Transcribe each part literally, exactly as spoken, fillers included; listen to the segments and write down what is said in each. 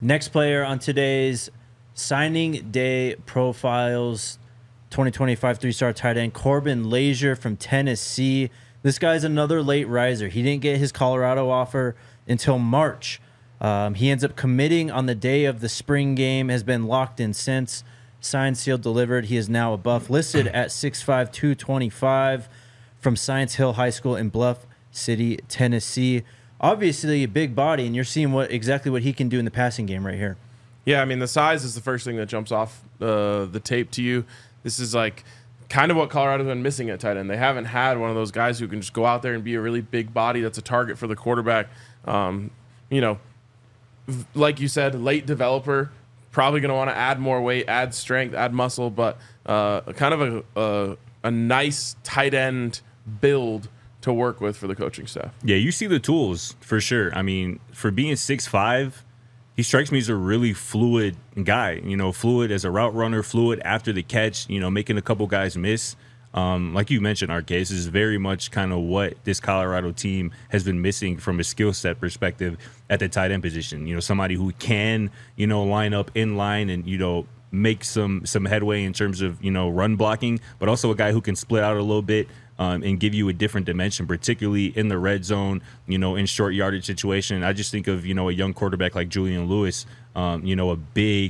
Next player on today's signing day profiles, twenty twenty-five three-star tight end, Corbin Lazier from Tennessee. This guy's another late riser. He didn't get his Colorado offer until March. Um, he ends up committing on the day of the spring game, has been locked in since. Signed, sealed, delivered. He is now a Buff, listed at six five, two twenty-five from Science Hill High School in Bluff City, Tennessee. Obviously a big body, and you're seeing what exactly what he can do in the passing game right here. Yeah, I mean, the size is the first thing that jumps off uh, the tape to you. This is like kind of what Colorado's been missing at tight end. They haven't had one of those guys who can just go out there and be a really big body that's a target for the quarterback. Um, you know, like you said, late developer, probably going to want to add more weight, add strength, add muscle, but uh, kind of a, a, a nice tight end build to work with for the coaching staff. Yeah, you see the tools for sure. I mean, for being six five, he strikes me as a really fluid guy. You know, fluid as a route runner, fluid after the catch, you know, making a couple guys miss. Um, like you mentioned, Arke, this is very much kind of what this Colorado team has been missing from a skill set perspective at the tight end position. You know, somebody who can, you know, line up in line and, you know, make some some headway in terms of, you know, run blocking, but also a guy who can split out a little bit um, and give you a different dimension, particularly in the red zone, you know, in short yardage situation. I just think of, you know, a young quarterback like Julian Lewis, um, you know, a big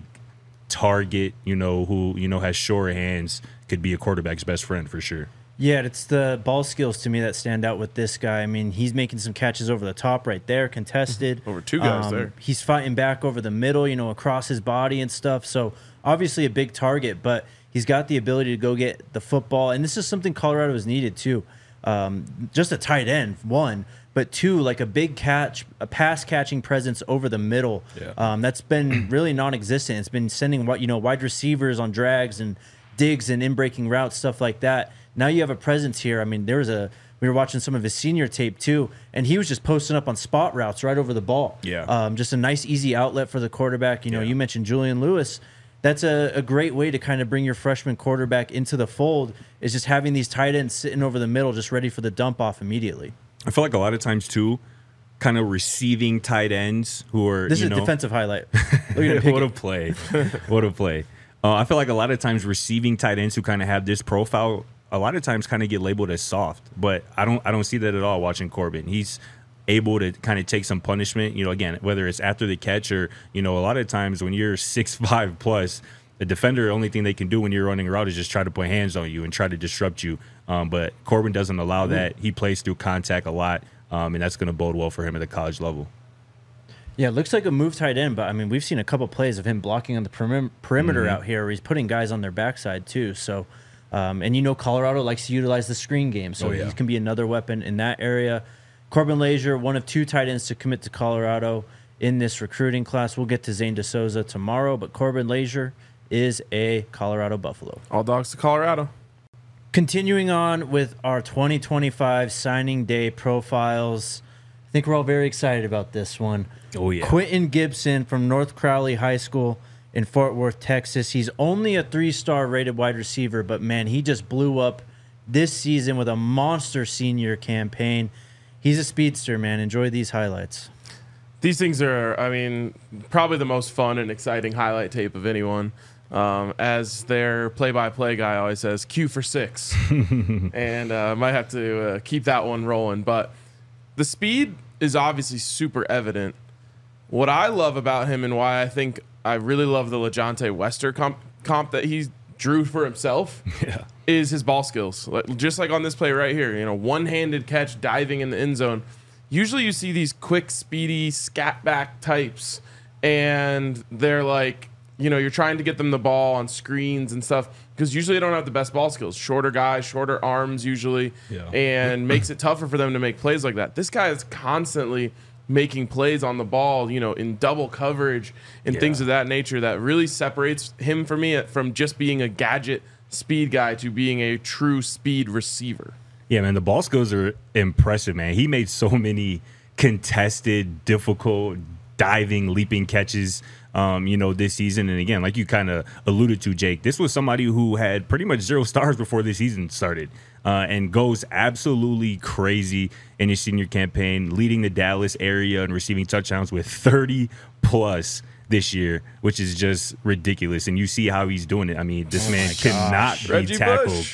target, you know, who, you know, has sure hands, could be a quarterback's best friend for sure. Yeah, it's the ball skills to me that stand out with this guy. I mean, he's making some catches over the top right there, contested. Over two guys um, there. He's fighting back over the middle, you know, across his body and stuff. So obviously a big target, but he's got the ability to go get the football. And this is something Colorado has needed too. Um, just a tight end, one, but two, like a big catch, a pass catching presence over the middle. Yeah. Um, that's been really non-existent. It's been sending what you know wide receivers on drags and digs and in breaking routes, stuff like that. Now you have a presence here. I mean, there was a we were watching some of his senior tape too, and he was just posting up on spot routes right over the ball. Yeah, um, just a nice easy outlet for the quarterback. You know, yeah. you mentioned Julian Lewis. That's a, a great way to kind of bring your freshman quarterback into the fold, is just having these tight ends sitting over the middle, just ready for the dump off immediately. I feel like a lot of times too, kind of receiving tight ends who are this you is know, a defensive highlight. What a play! What a play! Uh, I feel like a lot of times receiving tight ends who kind of have this profile, a lot of times kind of get labeled as soft, but I don't I don't see that at all watching Corbin. He's able to kind of take some punishment, you know, again, whether it's after the catch or, you know, a lot of times when you're six five plus, the defender, the only thing they can do when you're running a route is just try to put hands on you and try to disrupt you. Um, but Corbin doesn't allow that. He plays through contact a lot, um, and that's going to bode well for him at the college level. Yeah, it looks like a move tight end, but I mean, we've seen a couple plays of him blocking on the perim- perimeter mm-hmm. out here where he's putting guys on their backside too. So, um, and you know, Colorado likes to utilize the screen game, so oh, yeah. he can be another weapon in that area. Corbin Lazier, one of two tight ends to commit to Colorado in this recruiting class. We'll get to Zane DeSouza tomorrow, but Corbin Lazier is a Colorado Buffalo. All dogs to Colorado. Continuing on with our twenty twenty-five signing day profiles. I think we're all very excited about this one. Oh, yeah. Quentin Gibson from North Crowley High School in Fort Worth, Texas. He's only a three-star rated wide receiver, but, man, he just blew up this season with a monster senior campaign. He's a speedster, man. Enjoy these highlights. These things are, I mean, probably the most fun and exciting highlight tape of anyone. Um, as their play-by-play guy always says, Q for six. and I uh, might have to uh, keep that one rolling. But the speed is obviously super evident. What I love about him and why I think I really love the LeJontay Wester comp, comp that he drew for himself yeah. is his ball skills. Like, just like on this play right here, you know, one-handed catch diving in the end zone. Usually you see these quick, speedy, scat-back types, and they're like, you know, you're trying to get them the ball on screens and stuff because usually they don't have the best ball skills. Shorter guys, shorter arms usually, yeah. and makes it tougher for them to make plays like that. This guy is constantly making plays on the ball, you know, in double coverage and yeah. things of that nature that really separates him from me from just being a gadget speed guy to being a true speed receiver. Yeah, man, the ball skills are impressive, man. He made so many contested, difficult, diving, leaping catches, um, you know, this season. And again, like you kind of alluded to, Jake, this was somebody who had pretty much zero stars before the season started uh, and goes absolutely crazy in his senior campaign, leading the Dallas area and receiving touchdowns with thirty plus this year, which is just ridiculous. And you see how he's doing it. I mean, this oh man cannot be Reggie tackled.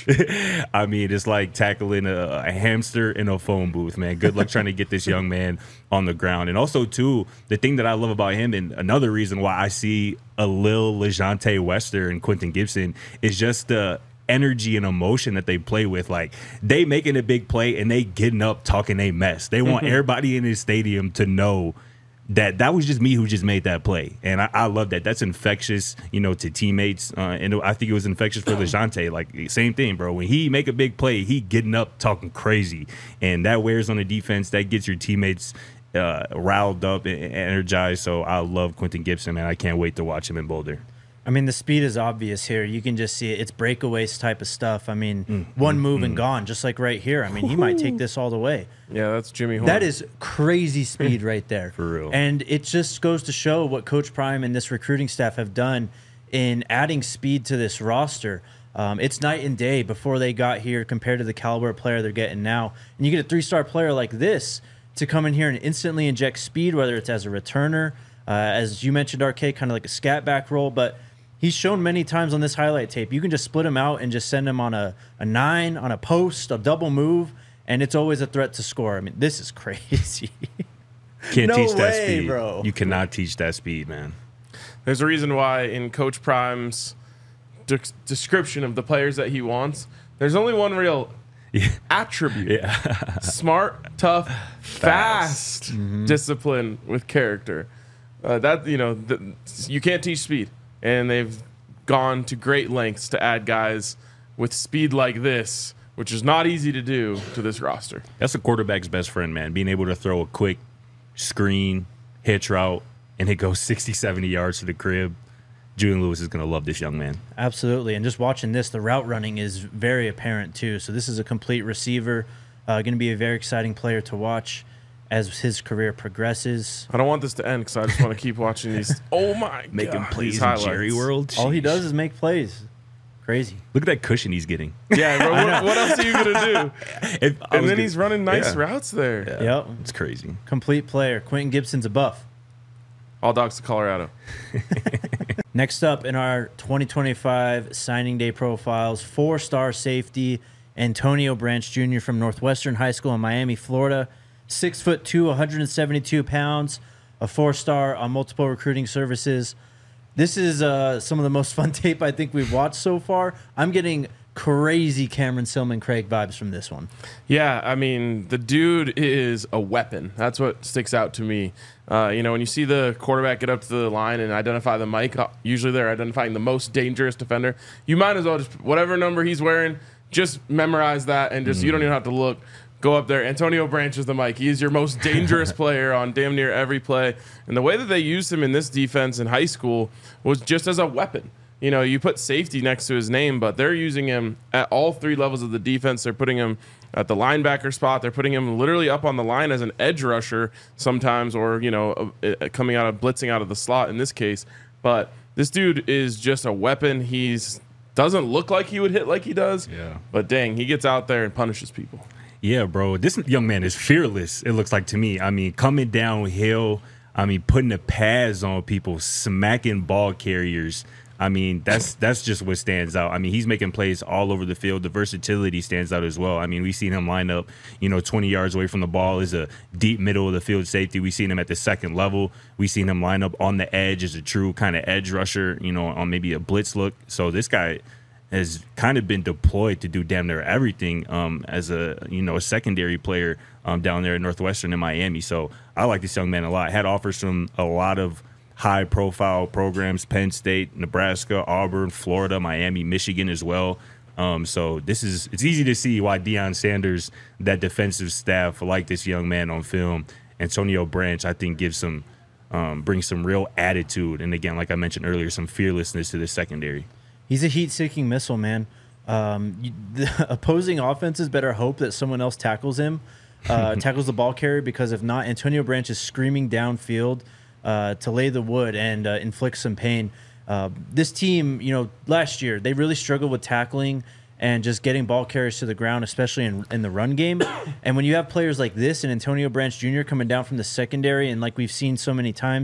I mean, it's like tackling a, a hamster in a phone booth, man. Good luck trying to get this young man on the ground. And also, too, the thing that I love about him, and another reason why I see a Lil LeJontay Wester and Quentin Gibson, is just the energy and emotion that they play with. Like, they making a big play and they getting up talking a mess. They want everybody in this stadium to know that that was just me who just made that play. And I, I love that. That's infectious, you know, to teammates. Uh, and I think it was infectious for LeJontay. Like, same thing, bro. When he make a big play, he getting up talking crazy. And that wears on the defense. That gets your teammates uh, riled up and energized. So I love Quentin Gibson, man. I can't wait to watch him in Boulder. I mean, the speed is obvious here. You can just see it. It's breakaways type of stuff. I mean, mm, one mm, move mm. and gone, just like right here. I mean, he might take this all the way. Yeah, that's Jimmy Horn. That is crazy speed right there. For real. And it just goes to show what Coach Prime and this recruiting staff have done in adding speed to this roster. Um, it's night and day before they got here compared to the caliber of player they're getting now. And you get a three-star player like this to come in here and instantly inject speed, whether it's as a returner, uh, as you mentioned, R K, kind of like a scat back role, but he's shown many times on this highlight tape. You can just split him out and just send him on a, a nine, on a post, a double move, and it's always a threat to score. I mean, this is crazy. Can't no teach that way, speed. Bro. You cannot teach that speed, man. There's a reason why in Coach Prime's de- description of the players that he wants, there's only one real yeah. attribute. Yeah. Smart, tough, fast, fast mm-hmm. discipline with character. Uh, that, you know, the, you can't teach speed. And they've gone to great lengths to add guys with speed like this, which is not easy to do to this roster. That's a quarterback's best friend, man. Being able to throw a quick screen, hitch route, and it goes sixty, seventy yards to the crib. Julian Lewis is going to love this young man. Absolutely. And just watching this, the route running is very apparent, too. So this is a complete receiver. Uh, going to be a very exciting player to watch as his career progresses. I don't want this to end because I just want to keep watching these. Oh, my God. Making plays in Jerry World. All he does is make plays. Crazy. Look at that cushion he's getting. Yeah, bro, what, what else are you going to do? If, and then he's running nice yeah. routes there. Yeah, yep. It's crazy. Complete player. Quentin Gibson's a buff. All dogs to Colorado. Next up in our twenty twenty-five signing day profiles, four-star safety Antonio Branch Junior from Northwestern High School in Miami, Florida. Six foot two, one hundred seventy-two pounds, a four-star on multiple recruiting services. This is uh, some of the most fun tape I think we've watched so far. I'm getting crazy Cameron Silman Craig vibes from this one. Yeah, I mean, the dude is a weapon. That's what sticks out to me. Uh, you know, when you see the quarterback get up to the line and identify the mic, usually they're identifying the most dangerous defender. You might as well just, whatever number he's wearing, just memorize that and just, mm. you don't even have to look. Go up there. Antonio Branch is the mic. He is your most dangerous player on damn near every play. And the way that they used him in this defense in high school was just as a weapon. You know, you put safety next to his name, but they're using him at all three levels of the defense. They're putting him at the linebacker spot. They're putting him literally up on the line as an edge rusher sometimes, or, you know, uh, coming out of blitzing out of the slot in this case. But this dude is just a weapon. He's doesn't look like he would hit like he does. Yeah. But dang, he gets out there and punishes people. Yeah, bro. This young man is fearless, it looks like to me. I mean, coming downhill, I mean, putting the pads on people, smacking ball carriers. I mean, that's that's just what stands out. I mean, he's making plays all over the field. The versatility stands out as well. I mean, we've seen him line up, you know, twenty yards away from the ball as a deep middle of the field safety. We've seen him at the second level. We've seen him line up on the edge as a true kind of edge rusher, you know, on maybe a blitz look. So this guy has kind of been deployed to do damn near everything um, as a, you know, a secondary player um, down there at Northwestern in Miami. So I like this young man a lot. Had offers from a lot of high-profile programs, Penn State, Nebraska, Auburn, Florida, Miami, Michigan as well. Um, so this is it's easy to see why Deion Sanders, that defensive staff, like this young man on film. Antonio Branch, I think, gives some um, brings some real attitude, and again, like I mentioned earlier, some fearlessness to the secondary. He's a heat-seeking missile, man. Um, you, the opposing offenses better hope that someone else tackles him, uh, tackles the ball carrier, because if not, Antonio Branch is screaming downfield uh, to lay the wood and uh, inflict some pain. Uh, this team, you know, last year, they really struggled with tackling and just getting ball carriers to the ground, especially in, in the run game. And when you have players like this and Antonio Branch Junior coming down from the secondary, and like we've seen so many times,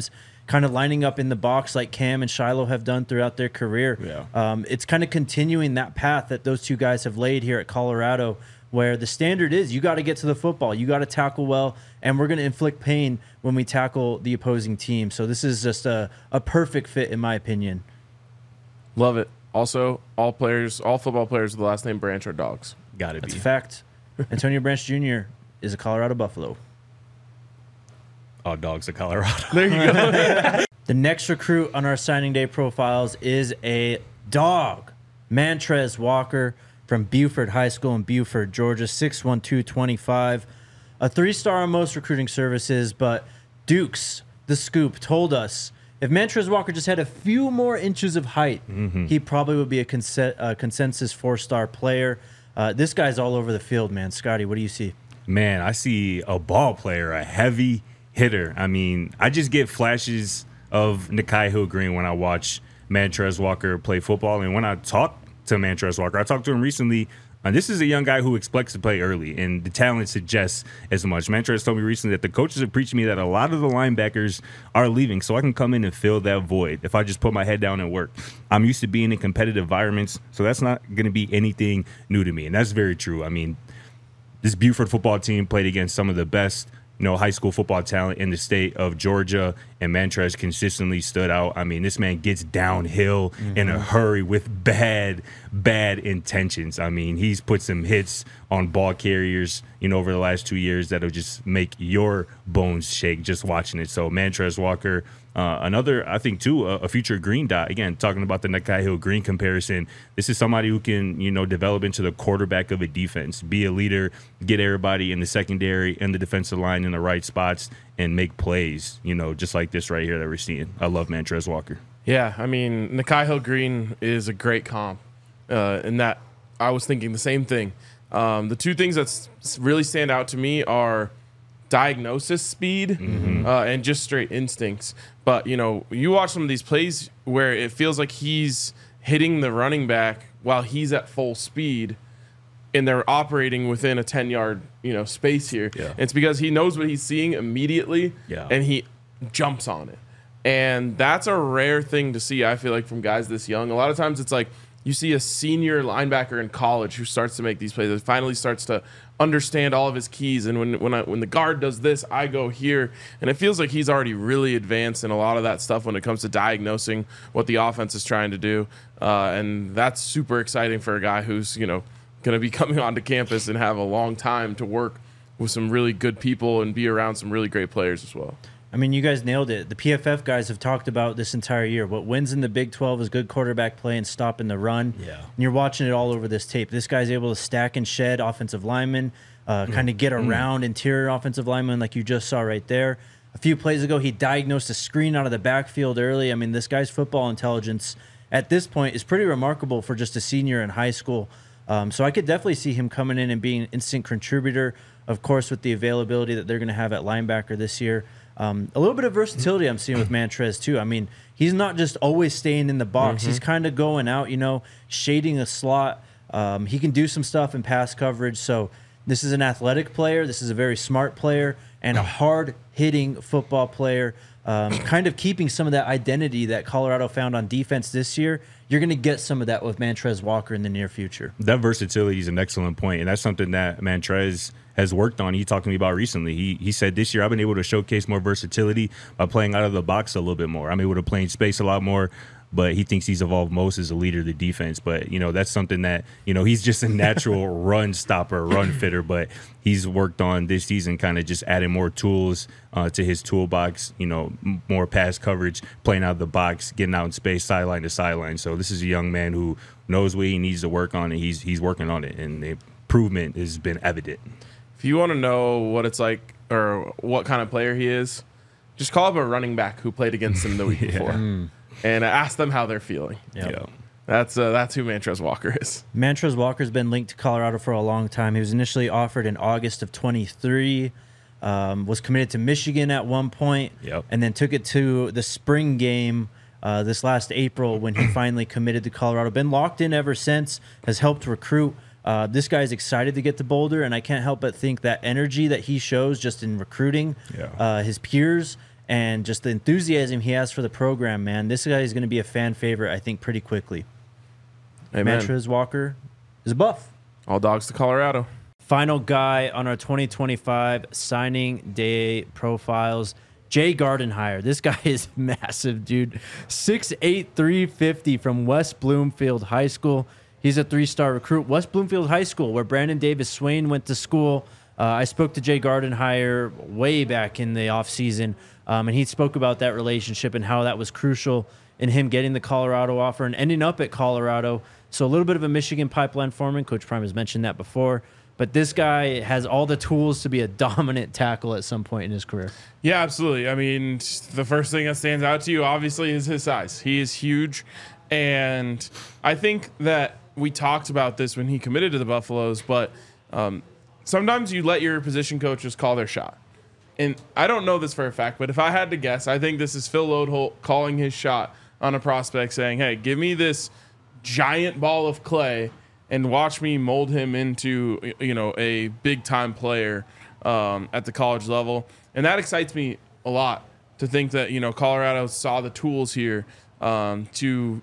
kind of lining up in the box like Cam and Shiloh have done throughout their career. Yeah. Um, it's kind of continuing that path that those two guys have laid here at Colorado, where the standard is you got to get to the football, you got to tackle well, and we're going to inflict pain when we tackle the opposing team. So this is just a, a perfect fit, in my opinion. Love it. Also, all players, all football players with the last name Branch are dogs. Got it. That's be. a fact. Antonio Branch Junior is a Colorado Buffalo. All dogs of Colorado. There you go. The next recruit on our signing day profiles is a dog, Mantrez Walker from Buford High School in Buford, Georgia, six one two twenty-five. A three-star on most recruiting services, but Dukes, the Scoop, told us if Mantrez Walker just had a few more inches of height, mm-hmm. he probably would be a, cons- a consensus four-star player. Uh, this guy's all over the field, man. Scotty, what do you see? Man, I see a ball player, a heavy hitter. I mean, I just get flashes of Nikhai Hill-Green when I watch Mantrez Walker play football. And when I talk to Mantrez Walker, I talked to him recently. Uh, this is a young guy who expects to play early, and the talent suggests as much. Mantrez told me recently that the coaches are preaching me that a lot of the linebackers are leaving, so I can come in and fill that void if I just put my head down and work. I'm used to being in competitive environments, so that's not going to be anything new to me, and that's very true. I mean, this Buford football team played against some of the best, you know, high school football talent in the state of Georgia, and Mantrez consistently stood out. I mean, this man gets downhill mm-hmm. in a hurry with bad, bad intentions. I mean, he's put some hits on ball carriers, you know, over the last two years that'll just make your bones shake just watching it. So Mantrez Walker, uh, another, I think, too, a, a future green dot. Again, talking about the Nikhai Hill-Green comparison, this is somebody who can, you know, develop into the quarterback of a defense, be a leader, get everybody in the secondary and the defensive line in the right spots, and make plays, you know, just like this right here that we're seeing. I love Mantrez Walker. Yeah, I mean, Nikhai Hill-Green is a great comp. Uh, in that, I was thinking the same thing. Um, the two things that really stand out to me are diagnosis speed mm-hmm. uh, and just straight instincts. But, you know, you watch some of these plays where it feels like he's hitting the running back while he's at full speed, and they're operating within a ten-yard, you know, space here. Yeah. It's because he knows what he's seeing immediately, yeah. and he jumps on it. And that's a rare thing to see, I feel like, from guys this young. A lot of times it's like you see a senior linebacker in college who starts to make these plays, that finally starts to understand all of his keys. And when when I, when the guard does this, I go here. And it feels like he's already really advanced in a lot of that stuff when it comes to diagnosing what the offense is trying to do. Uh, and that's super exciting for a guy who's, you know, going to be coming onto campus and have a long time to work with some really good people and be around some really great players as well. I mean, you guys nailed it. The P F F guys have talked about this entire year. What wins in the Big twelve is good quarterback play and stopping the run. Yeah. And you're watching it all over this tape. This guy's able to stack and shed offensive linemen, uh, kind of get around mm. interior offensive linemen like you just saw right there. A few plays ago, he diagnosed a screen out of the backfield early. I mean, this guy's football intelligence at this point is pretty remarkable for just a senior in high school. Um, so I could definitely see him coming in and being an instant contributor, of course, with the availability that they're going to have at linebacker this year. Um, a little bit of versatility I'm seeing with Mantrez, too. I mean, he's not just always staying in the box. Mm-hmm. He's kind of going out, you know, shading a slot. Um, he can do some stuff in pass coverage. So this is an athletic player. This is a very smart player and a hard-hitting football player, um, kind of keeping some of that identity that Colorado found on defense this year. You're going to get some of that with Mantrez Walker in the near future. That versatility is an excellent point, and that's something that Mantrez has worked on. He talked to me about recently. He he said this year I've been able to showcase more versatility by playing out of the box a little bit more. I'm able to play in space a lot more, but he thinks he's evolved most as a leader of the defense. But, you know, that's something that, you know, he's just a natural run stopper, run fitter, but he's worked on this season kind of just adding more tools uh, to his toolbox, you know, m- more pass coverage, playing out of the box, getting out in space, sideline to sideline. So this is a young man who knows what he needs to work on, and he's he's working on it, and the improvement has been evident. If you want to know what it's like or what kind of player he is, just call up a running back who played against him the week yeah. before Mm. and ask them how they're feeling. Yep. Yeah. That's uh, that's who Mantrez Walker is. Mantrez Walker's been linked to Colorado for a long time. He was initially offered in August of twenty-three, um, was committed to Michigan at one point, Yep. and then took it to the spring game uh, this last April when he finally committed to Colorado. Been locked in ever since, has helped recruit. Uh, this guy's excited to get to Boulder, and I can't help but think that energy that he shows just in recruiting Yeah. uh, his peers and just the enthusiasm he has for the program, man. This guy is going to be a fan favorite, I think, pretty quickly. Amen. Montrez Walker is a buff. All dogs to Colorado. Final guy on our twenty twenty-five signing day profiles, Jay Gardenhire. This guy is massive, dude. six eight, three fifty from West Bloomfield High School. He's a three-star recruit. West Bloomfield High School, where Brandon Davis Swain went to school. Uh, I spoke to Jay Gardenhire way back in the offseason, um, and he spoke about that relationship and how that was crucial in him getting the Colorado offer and ending up at Colorado. So a little bit of a Michigan pipeline foreman. Coach Prime has mentioned that before. But this guy has all the tools to be a dominant tackle at some point in his career. Yeah, absolutely. I mean, the first thing that stands out to you, obviously, is his size. He is huge. And I think that we talked about this when he committed to the Buffaloes, but um, sometimes you let your position coaches call their shot. And I don't know this for a fact, but if I had to guess, I think this is Phil Lodeholt calling his shot on a prospect saying, hey, give me this giant ball of clay and watch me mold him into, you know, a big-time player um, at the college level. And that excites me a lot to think that, you know, Colorado saw the tools here um, to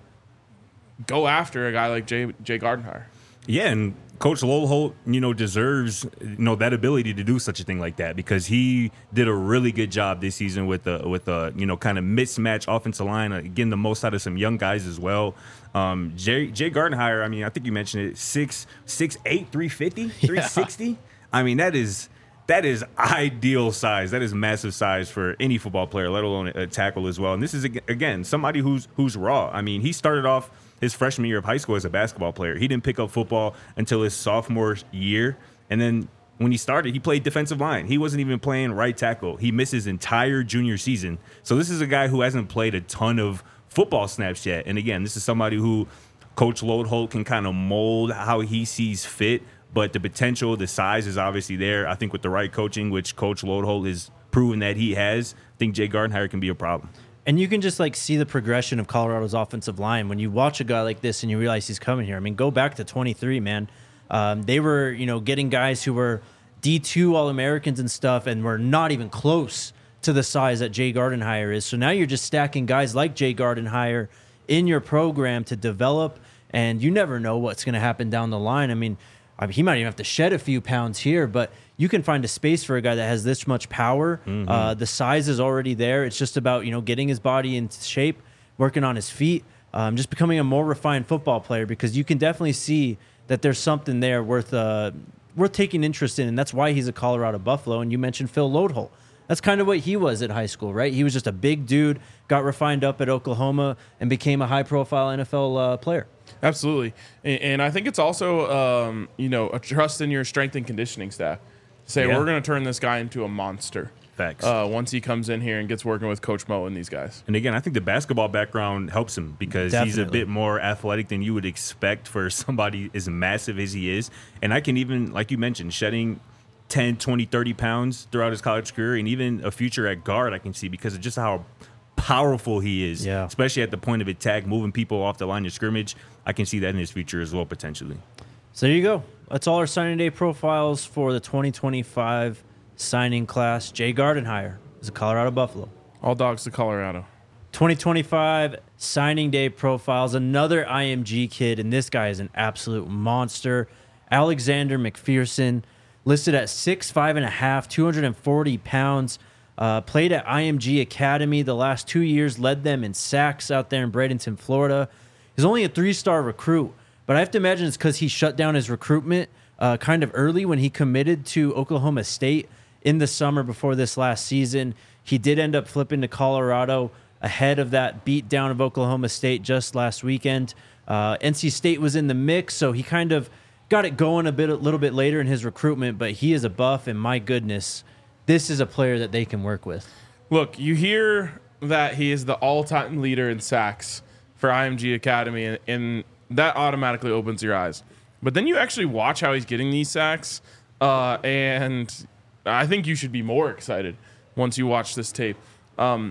go after a guy like Jay, Jay Gardenhire. Yeah, and Coach Lodeholt, you know, deserves, you know, that ability to do such a thing like that because he did a really good job this season with a with a you know kind of mismatched offensive line, uh, getting the most out of some young guys as well. Um, Jay Jay Gardenhire, I mean, I think you mentioned it, six six eight, three fifty, three sixty. Yeah. I mean, that is that is ideal size. That is massive size for any football player, let alone a tackle as well. And this is again somebody who's who's raw. I mean, he started off his freshman year of high school as a basketball player. He didn't pick up football until his sophomore year. And then when he started, he played defensive line. He wasn't even playing right tackle. He missed his entire junior season. So this is a guy who hasn't played a ton of football snaps yet. And again, this is somebody who Coach Lodeholt can kind of mold how he sees fit. But the potential, the size is obviously there. I think with the right coaching, which Coach Lodeholt has proven that he has, I think Jay Gardenhire can be a problem. And you can just like see the progression of Colorado's offensive line when you watch a guy like this and you realize he's coming here. I mean, go back to twenty-three, man. Um, they were, you know, getting guys who were D two All-Americans and stuff and were not even close to the size that Jay Gardenhire is. So now you're just stacking guys like Jay Gardenhire in your program to develop, and you never know what's going to happen down the line. I mean, I mean, he might even have to shed a few pounds here, but you can find a space for a guy that has this much power. Mm-hmm. Uh, the size is already there. It's just about, you know, getting his body into shape, working on his feet, um, just becoming a more refined football player, because you can definitely see that there's something there worth uh, worth taking interest in, and that's why he's a Colorado Buffalo. And you mentioned Phil Lodeholt. That's kind of what he was at high school, right? He was just a big dude, got refined up at Oklahoma, and became a high-profile N F L uh, player. Absolutely. And, and I think it's also, um, you know, a trust in your strength and conditioning staff. Say, yeah. We're going to turn this guy into a monster. Facts. Uh, once he comes in here and gets working with Coach Mo and these guys. And again, I think the basketball background helps him because Definitely. he's a bit more athletic than you would expect for somebody as massive as he is. And I can even, like you mentioned, shedding ten, twenty, thirty pounds throughout his college career, and even a future at guard I can see because of just how powerful he is, yeah. especially at the point of attack, moving people off the line of scrimmage. I can see that in his future as well, potentially. So there you go. That's all our signing day profiles for the twenty twenty-five signing class. Jay Gardenhire is a Colorado Buffalo. All dogs to Colorado. twenty twenty-five signing day profiles. Another I M G kid, and this guy is an absolute monster. Alexander McPherson, listed at six five and a half, two hundred forty pounds. Uh, played at I M G Academy the last two years, led them in sacks out there in Bradenton, Florida. He's only a three-star recruit, but I have to imagine it's because he shut down his recruitment uh, kind of early when he committed to Oklahoma State in the summer before this last season. He did end up flipping to Colorado ahead of that beatdown of Oklahoma State just last weekend. Uh, N C State was in the mix, so he kind of got it going a bit, a little bit later in his recruitment, but he is a buff, and my goodness, this is a player that they can work with. Look, you hear that he is the all-time leader in sacks for I M G Academy, and, and that automatically opens your eyes. But then you actually watch how he's getting these sacks, uh, and I think you should be more excited once you watch this tape. Um,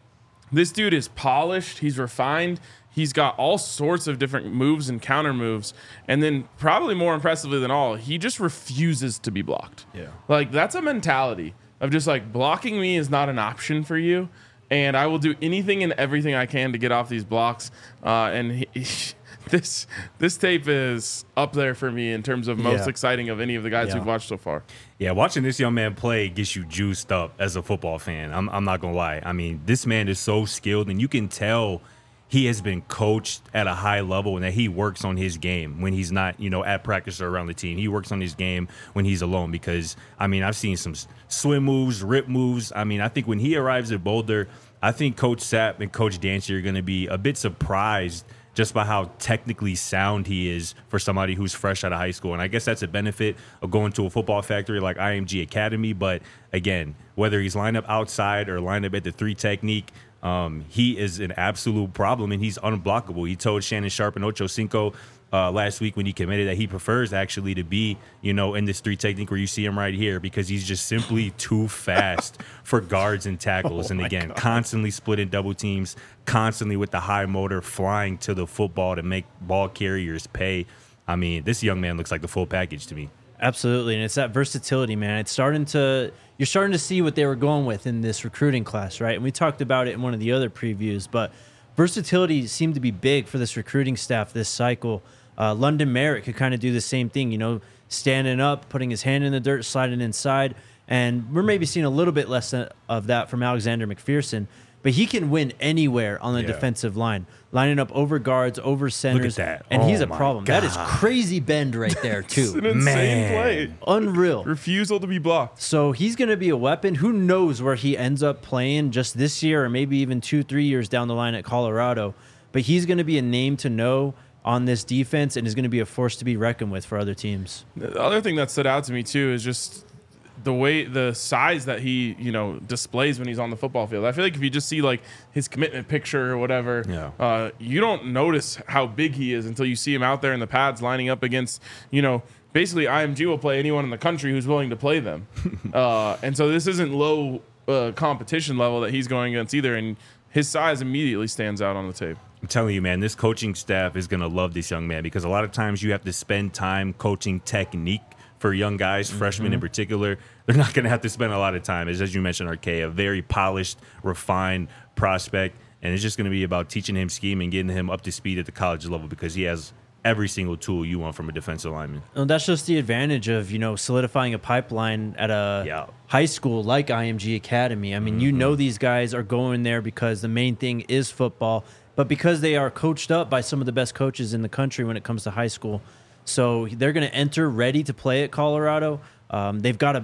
this dude is polished. He's refined. He's got all sorts of different moves and counter moves. And then probably more impressively than all, he just refuses to be blocked. Yeah. Like, that's a mentality of just like blocking me is not an option for you. And I will do anything and everything I can to get off these blocks. Uh, and he, he, this this tape is up there for me in terms of most Yeah. exciting of any of the guys Yeah. we've watched so far. Yeah, watching this young man play gets you juiced up as a football fan. I'm, I'm not going to lie. I mean, this man is so skilled, and you can tell he has been coached at a high level and that he works on his game when he's not, you know, at practice or around the team. He works on his game when he's alone because, I mean, I've seen some s- swim moves, rip moves. I mean, I think when he arrives at Boulder, I think Coach Sapp and Coach Dancy are going to be a bit surprised just by how technically sound he is for somebody who's fresh out of high school. And I guess that's a benefit of going to a football factory like I M G Academy. But again, whether he's lined up outside or lined up at the three technique, um, he is an absolute problem and he's unblockable. He told Shannon Sharp and Ocho Cinco uh, last week when he committed that he prefers actually to be, you know, in this three technique where you see him right here because he's just simply too fast for guards and tackles. Oh and my again, God. constantly splitting double teams, constantly with the high motor, flying to the football to make ball carriers pay. I mean, this young man looks like the full package to me. Absolutely, and it's that versatility, man. It's starting to you're starting to see what they were going with in this recruiting class, right? And we talked about it in one of the other previews, but versatility seemed to be big for this recruiting staff this cycle. Uh, London Merritt could kind of do the same thing, you know, standing up, putting his hand in the dirt, sliding inside, and we're maybe seeing a little bit less of that from Alexander McPherson. But he can win anywhere on the Yeah. defensive line, lining up over guards, over centers. that. And Oh he's a my problem. That is God. crazy bend right there, It's an too. insane Man. play. Unreal. Refusal to be blocked. So he's going to be a weapon. Who knows where he ends up playing just this year or maybe even two, three years down the line at Colorado. But he's going to be a name to know on this defense and is going to be a force to be reckoned with for other teams. The other thing that stood out to me too is just the way the size that he, you know, displays when he's on the football field. I feel like if you just see like his commitment picture or whatever, Yeah. uh, you don't notice how big he is until you see him out there in the pads lining up against, you know, basically I M G will play anyone in the country who's willing to play them. uh, and so this isn't low uh, competition level that he's going against either. And his size immediately stands out on the tape. I'm telling you, man, this coaching staff is going to love this young man because a lot of times you have to spend time coaching technique for young guys, freshmen in particular. They're not going to have to spend a lot of time. As, as you mentioned, Arke, a very polished, refined prospect. And it's just going to be about teaching him scheme and getting him up to speed at the college level because he has every single tool you want from a defensive lineman. And that's just the advantage of, you know, solidifying a pipeline at a Yeah. high school like I M G Academy. I mean, you know these guys are going there because the main thing is football, but because they are coached up by some of the best coaches in the country when it comes to high school. So they're going to enter ready to play at Colorado. Um, they've got a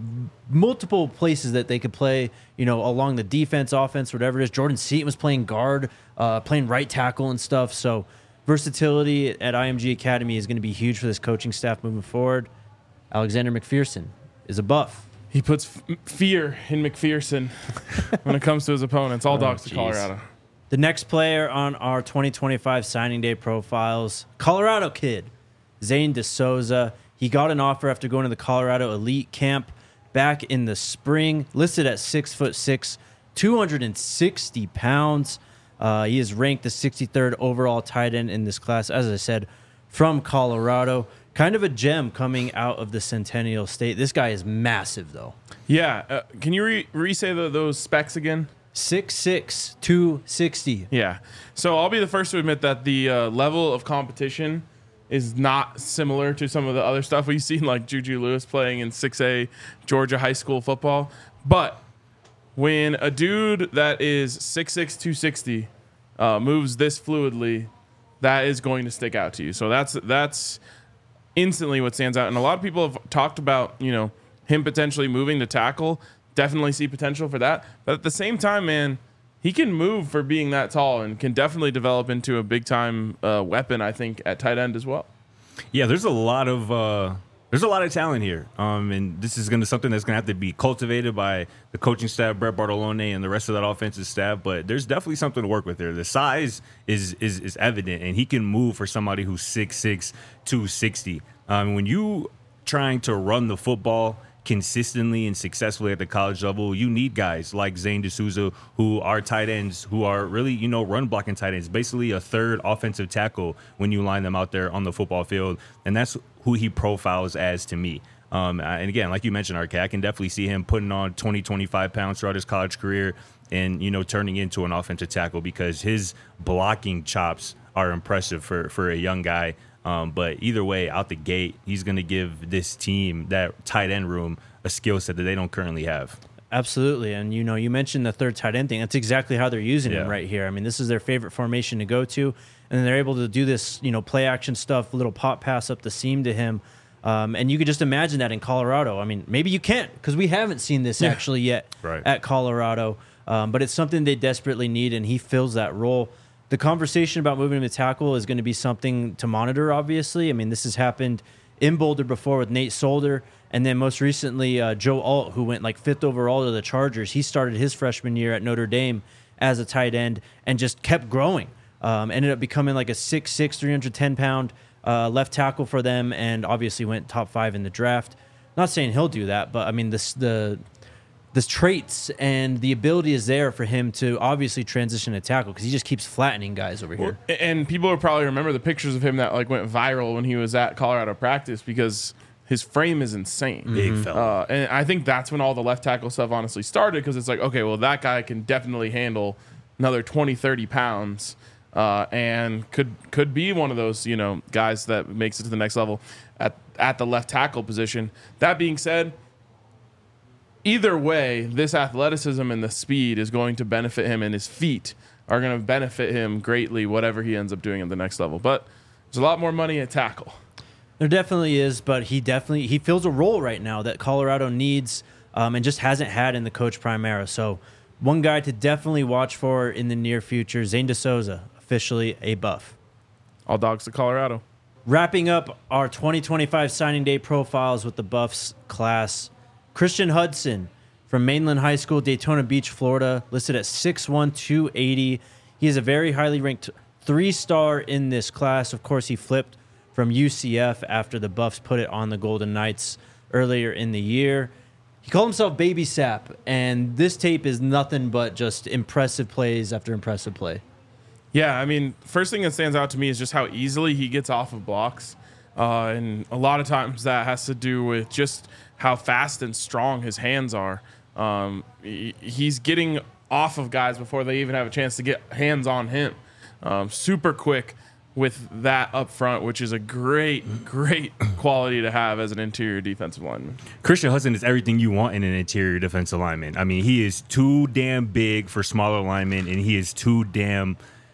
multiple places that they could play, you know, along the defense, offense, whatever it is. Jordan Seaton was playing guard, uh, playing right tackle and stuff. So versatility at I M G Academy is going to be huge for this coaching staff moving forward. Alexander McPherson is a buff. He puts f- fear in McPherson when it comes to his opponents. All dogs to jeez. Colorado. The next player on our twenty twenty-five signing day profiles, Colorado kid, Zane DeSouza. He got an offer after going to the Colorado Elite Camp back in the spring, listed at six foot six, two hundred sixty pounds. Uh, he is ranked the sixty-third overall tight end in this class, as I said, from Colorado. Kind of a gem coming out of the Centennial State. This guy is massive, though. Yeah. Uh, can you re- re-say the, those specs again? six six, two sixty. Yeah. So I'll be the first to admit that the uh, level of competition is not similar to some of the other stuff we've seen, like Juju Lewis playing in six A Georgia high school football. But when a dude that is six six, two sixty uh, moves this fluidly, that is going to stick out to you. So that's that's instantly what stands out. And a lot of people have talked about, you know, him potentially moving to tackle. Definitely see potential for that. But at the same time, man, he can move for being that tall and can definitely develop into a big time uh, weapon, I think, at tight end as well. Yeah, there's a lot of uh, there's a lot of talent here, um, and this is going to something that's going to have to be cultivated by the coaching staff, Brett Bartolone, and the rest of that offensive staff. But there's definitely something to work with there. The size is is is evident, and he can move for somebody who's six six, two sixty. Um, when you trying to run the football consistently and successfully at the college level, you need guys like Zane D'Souza who are tight ends, who are really, you know, run blocking tight ends, basically a third offensive tackle when you line them out there on the football field. And that's who he profiles as to me. Um, and again, like you mentioned, R K, I can definitely see him putting on twenty, twenty-five pounds throughout his college career and, you know, turning into an offensive tackle because his blocking chops are impressive for, for a young guy. Um, but either way, out the gate, he's going to give this team, that tight end room, a skill set that they don't currently have. Absolutely. And, you know, you mentioned the third tight end thing. That's exactly how they're using Yeah. him right here. I mean, this is their favorite formation to go to. And then they're able to do this, you know, play action stuff, little pop pass up the seam to him. Um, and you could just imagine that in Colorado. I mean, maybe you can't because we haven't seen this Yeah. actually yet Right. at Colorado. Um, but it's something they desperately need, and he fills that role. The conversation about moving him to tackle is going to be something to monitor, obviously. I mean, this has happened in Boulder before with Nate Solder, and then most recently uh, Joe Alt, who went like fifth overall to the Chargers. He started his freshman year at Notre Dame as a tight end and just kept growing. Um, ended up becoming like a six six, three hundred ten pound uh, left tackle for them, and obviously went top five in the draft. Not saying he'll do that, but I mean, this the the traits and the ability is there for him to obviously transition to tackle because he just keeps flattening guys over here. And people will probably remember the pictures of him that like went viral when he was at Colorado practice because his frame is insane. Big fella. Uh, and I think that's when all the left tackle stuff honestly started because it's like, okay, well, that guy can definitely handle another twenty, thirty pounds uh, and could could be one of those, you know, guys that makes it to the next level at, at the left tackle position. That being said, either way, this athleticism and the speed is going to benefit him, and his feet are going to benefit him greatly, whatever he ends up doing at the next level. But there's a lot more money at tackle. There definitely is, but he definitely he fills a role right now that Colorado needs um, and just hasn't had in the Coach Prime era. So one guy to definitely watch for in the near future, Zane DeSouza, officially a Buff. All dogs to Colorado. Wrapping up our twenty twenty-five signing day profiles with the Buffs class, Christian Hudson from Mainland High School, Daytona Beach, Florida, listed at six one, two eighty. He is a very highly ranked three-star in this class. Of course, he flipped from U C F after the Buffs put it on the Golden Knights earlier in the year. He called himself Baby Sap, and this tape is nothing but just impressive plays after impressive play. Yeah, I mean, first thing that stands out to me is just how easily he gets off of blocks. Uh, and a lot of times that has to do with just how fast and strong his hands are. Um, he, he's getting off of guys before they even have a chance to get hands on him. Um, super quick with that up front, which is a great, great quality to have as an interior defensive lineman. Christian Hudson is everything you want in an interior defensive lineman. I mean, he is too damn big for smaller linemen, and he is too damn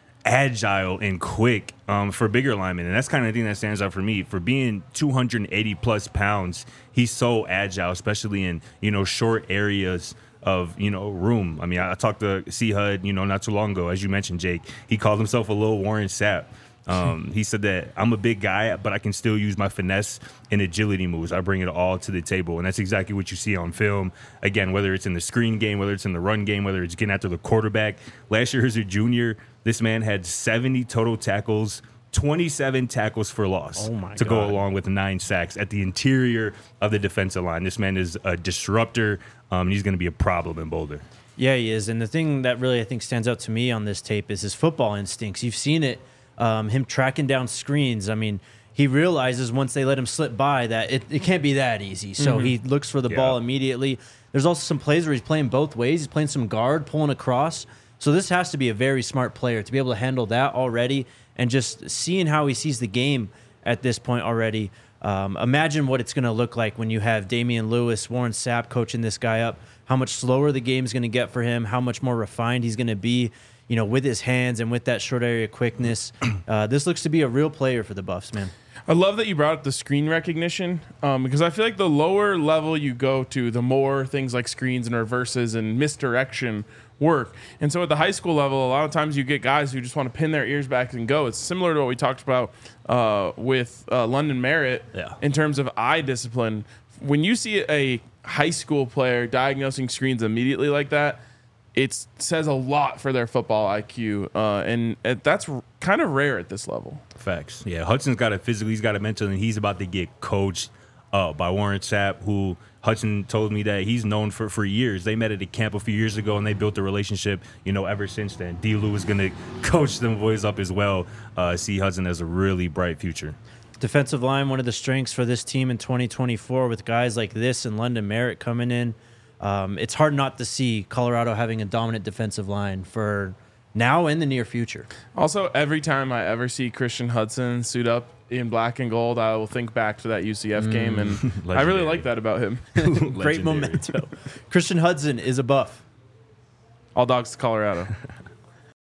agile and quick um, for bigger linemen. And that's kind of the thing that stands out for me. For being two hundred eighty plus pounds, he's so agile, especially in, you know, short areas of, you know, room. I mean, I, I talked to C H U D, you know, not too long ago, as you mentioned, Jake. He called himself a little Warren Sapp. Um, he said that I'm a big guy, but I can still use my finesse and agility moves. I bring it all to the table, and that's exactly what you see on film. Again, whether it's in the screen game, whether it's in the run game, whether it's getting after the quarterback. Last year as a junior, this man had seventy total tackles, twenty-seven tackles for loss Oh my to go God. along with nine sacks at the interior of the defensive line. This man is a disruptor, um, and he's going to be a problem in Boulder. Yeah, he is. And the thing that really I think stands out to me on this tape is his football instincts. You've seen it, um, him tracking down screens. I mean, he realizes once they let him slip by that it, it can't be that easy. So he looks for the Yeah. ball immediately. There's also some plays where he's playing both ways. He's playing some guard, pulling across. So this has to be a very smart player to be able to handle that already, and just seeing how he sees the game at this point already. Um, imagine what it's going to look like when you have Damian Lewis, Warren Sapp coaching this guy up, how much slower the game's going to get for him, how much more refined he's going to be, you know, with his hands and with that short area quickness. Uh, this looks to be a real player for the Buffs, man. I love that you brought up the screen recognition um, because I feel like the lower level you go to, the more things like screens and reverses and misdirection work. And so at the high school level, a lot of times you get guys who just want to pin their ears back and go. It's similar to what we talked about uh, with uh, London Merritt Yeah. in terms of eye discipline. When you see a high school player diagnosing screens immediately like that, it says a lot for their football I Q, uh, and uh, that's r- kind of rare at this level. Facts. Yeah, Hudson's got a physical, he's got a mental, and he's about to get coached up by Warren Sapp, who Hudson told me that he's known for, for years. They met at a camp a few years ago, and they built a relationship, you know, ever since then. D. Lou is going to coach them boys up as well. Uh, see Hudson as a really bright future. Defensive line, one of the strengths for this team in twenty twenty-four with guys like this and London Merritt coming in. Um, it's hard not to see Colorado having a dominant defensive line for now and the near future. Also, every time I ever see Christian Hudson suit up in black and gold, I will think back to that U C F mm. game, and I really like that about him. Great memento. Christian Hudson is a buff. All dogs to Colorado.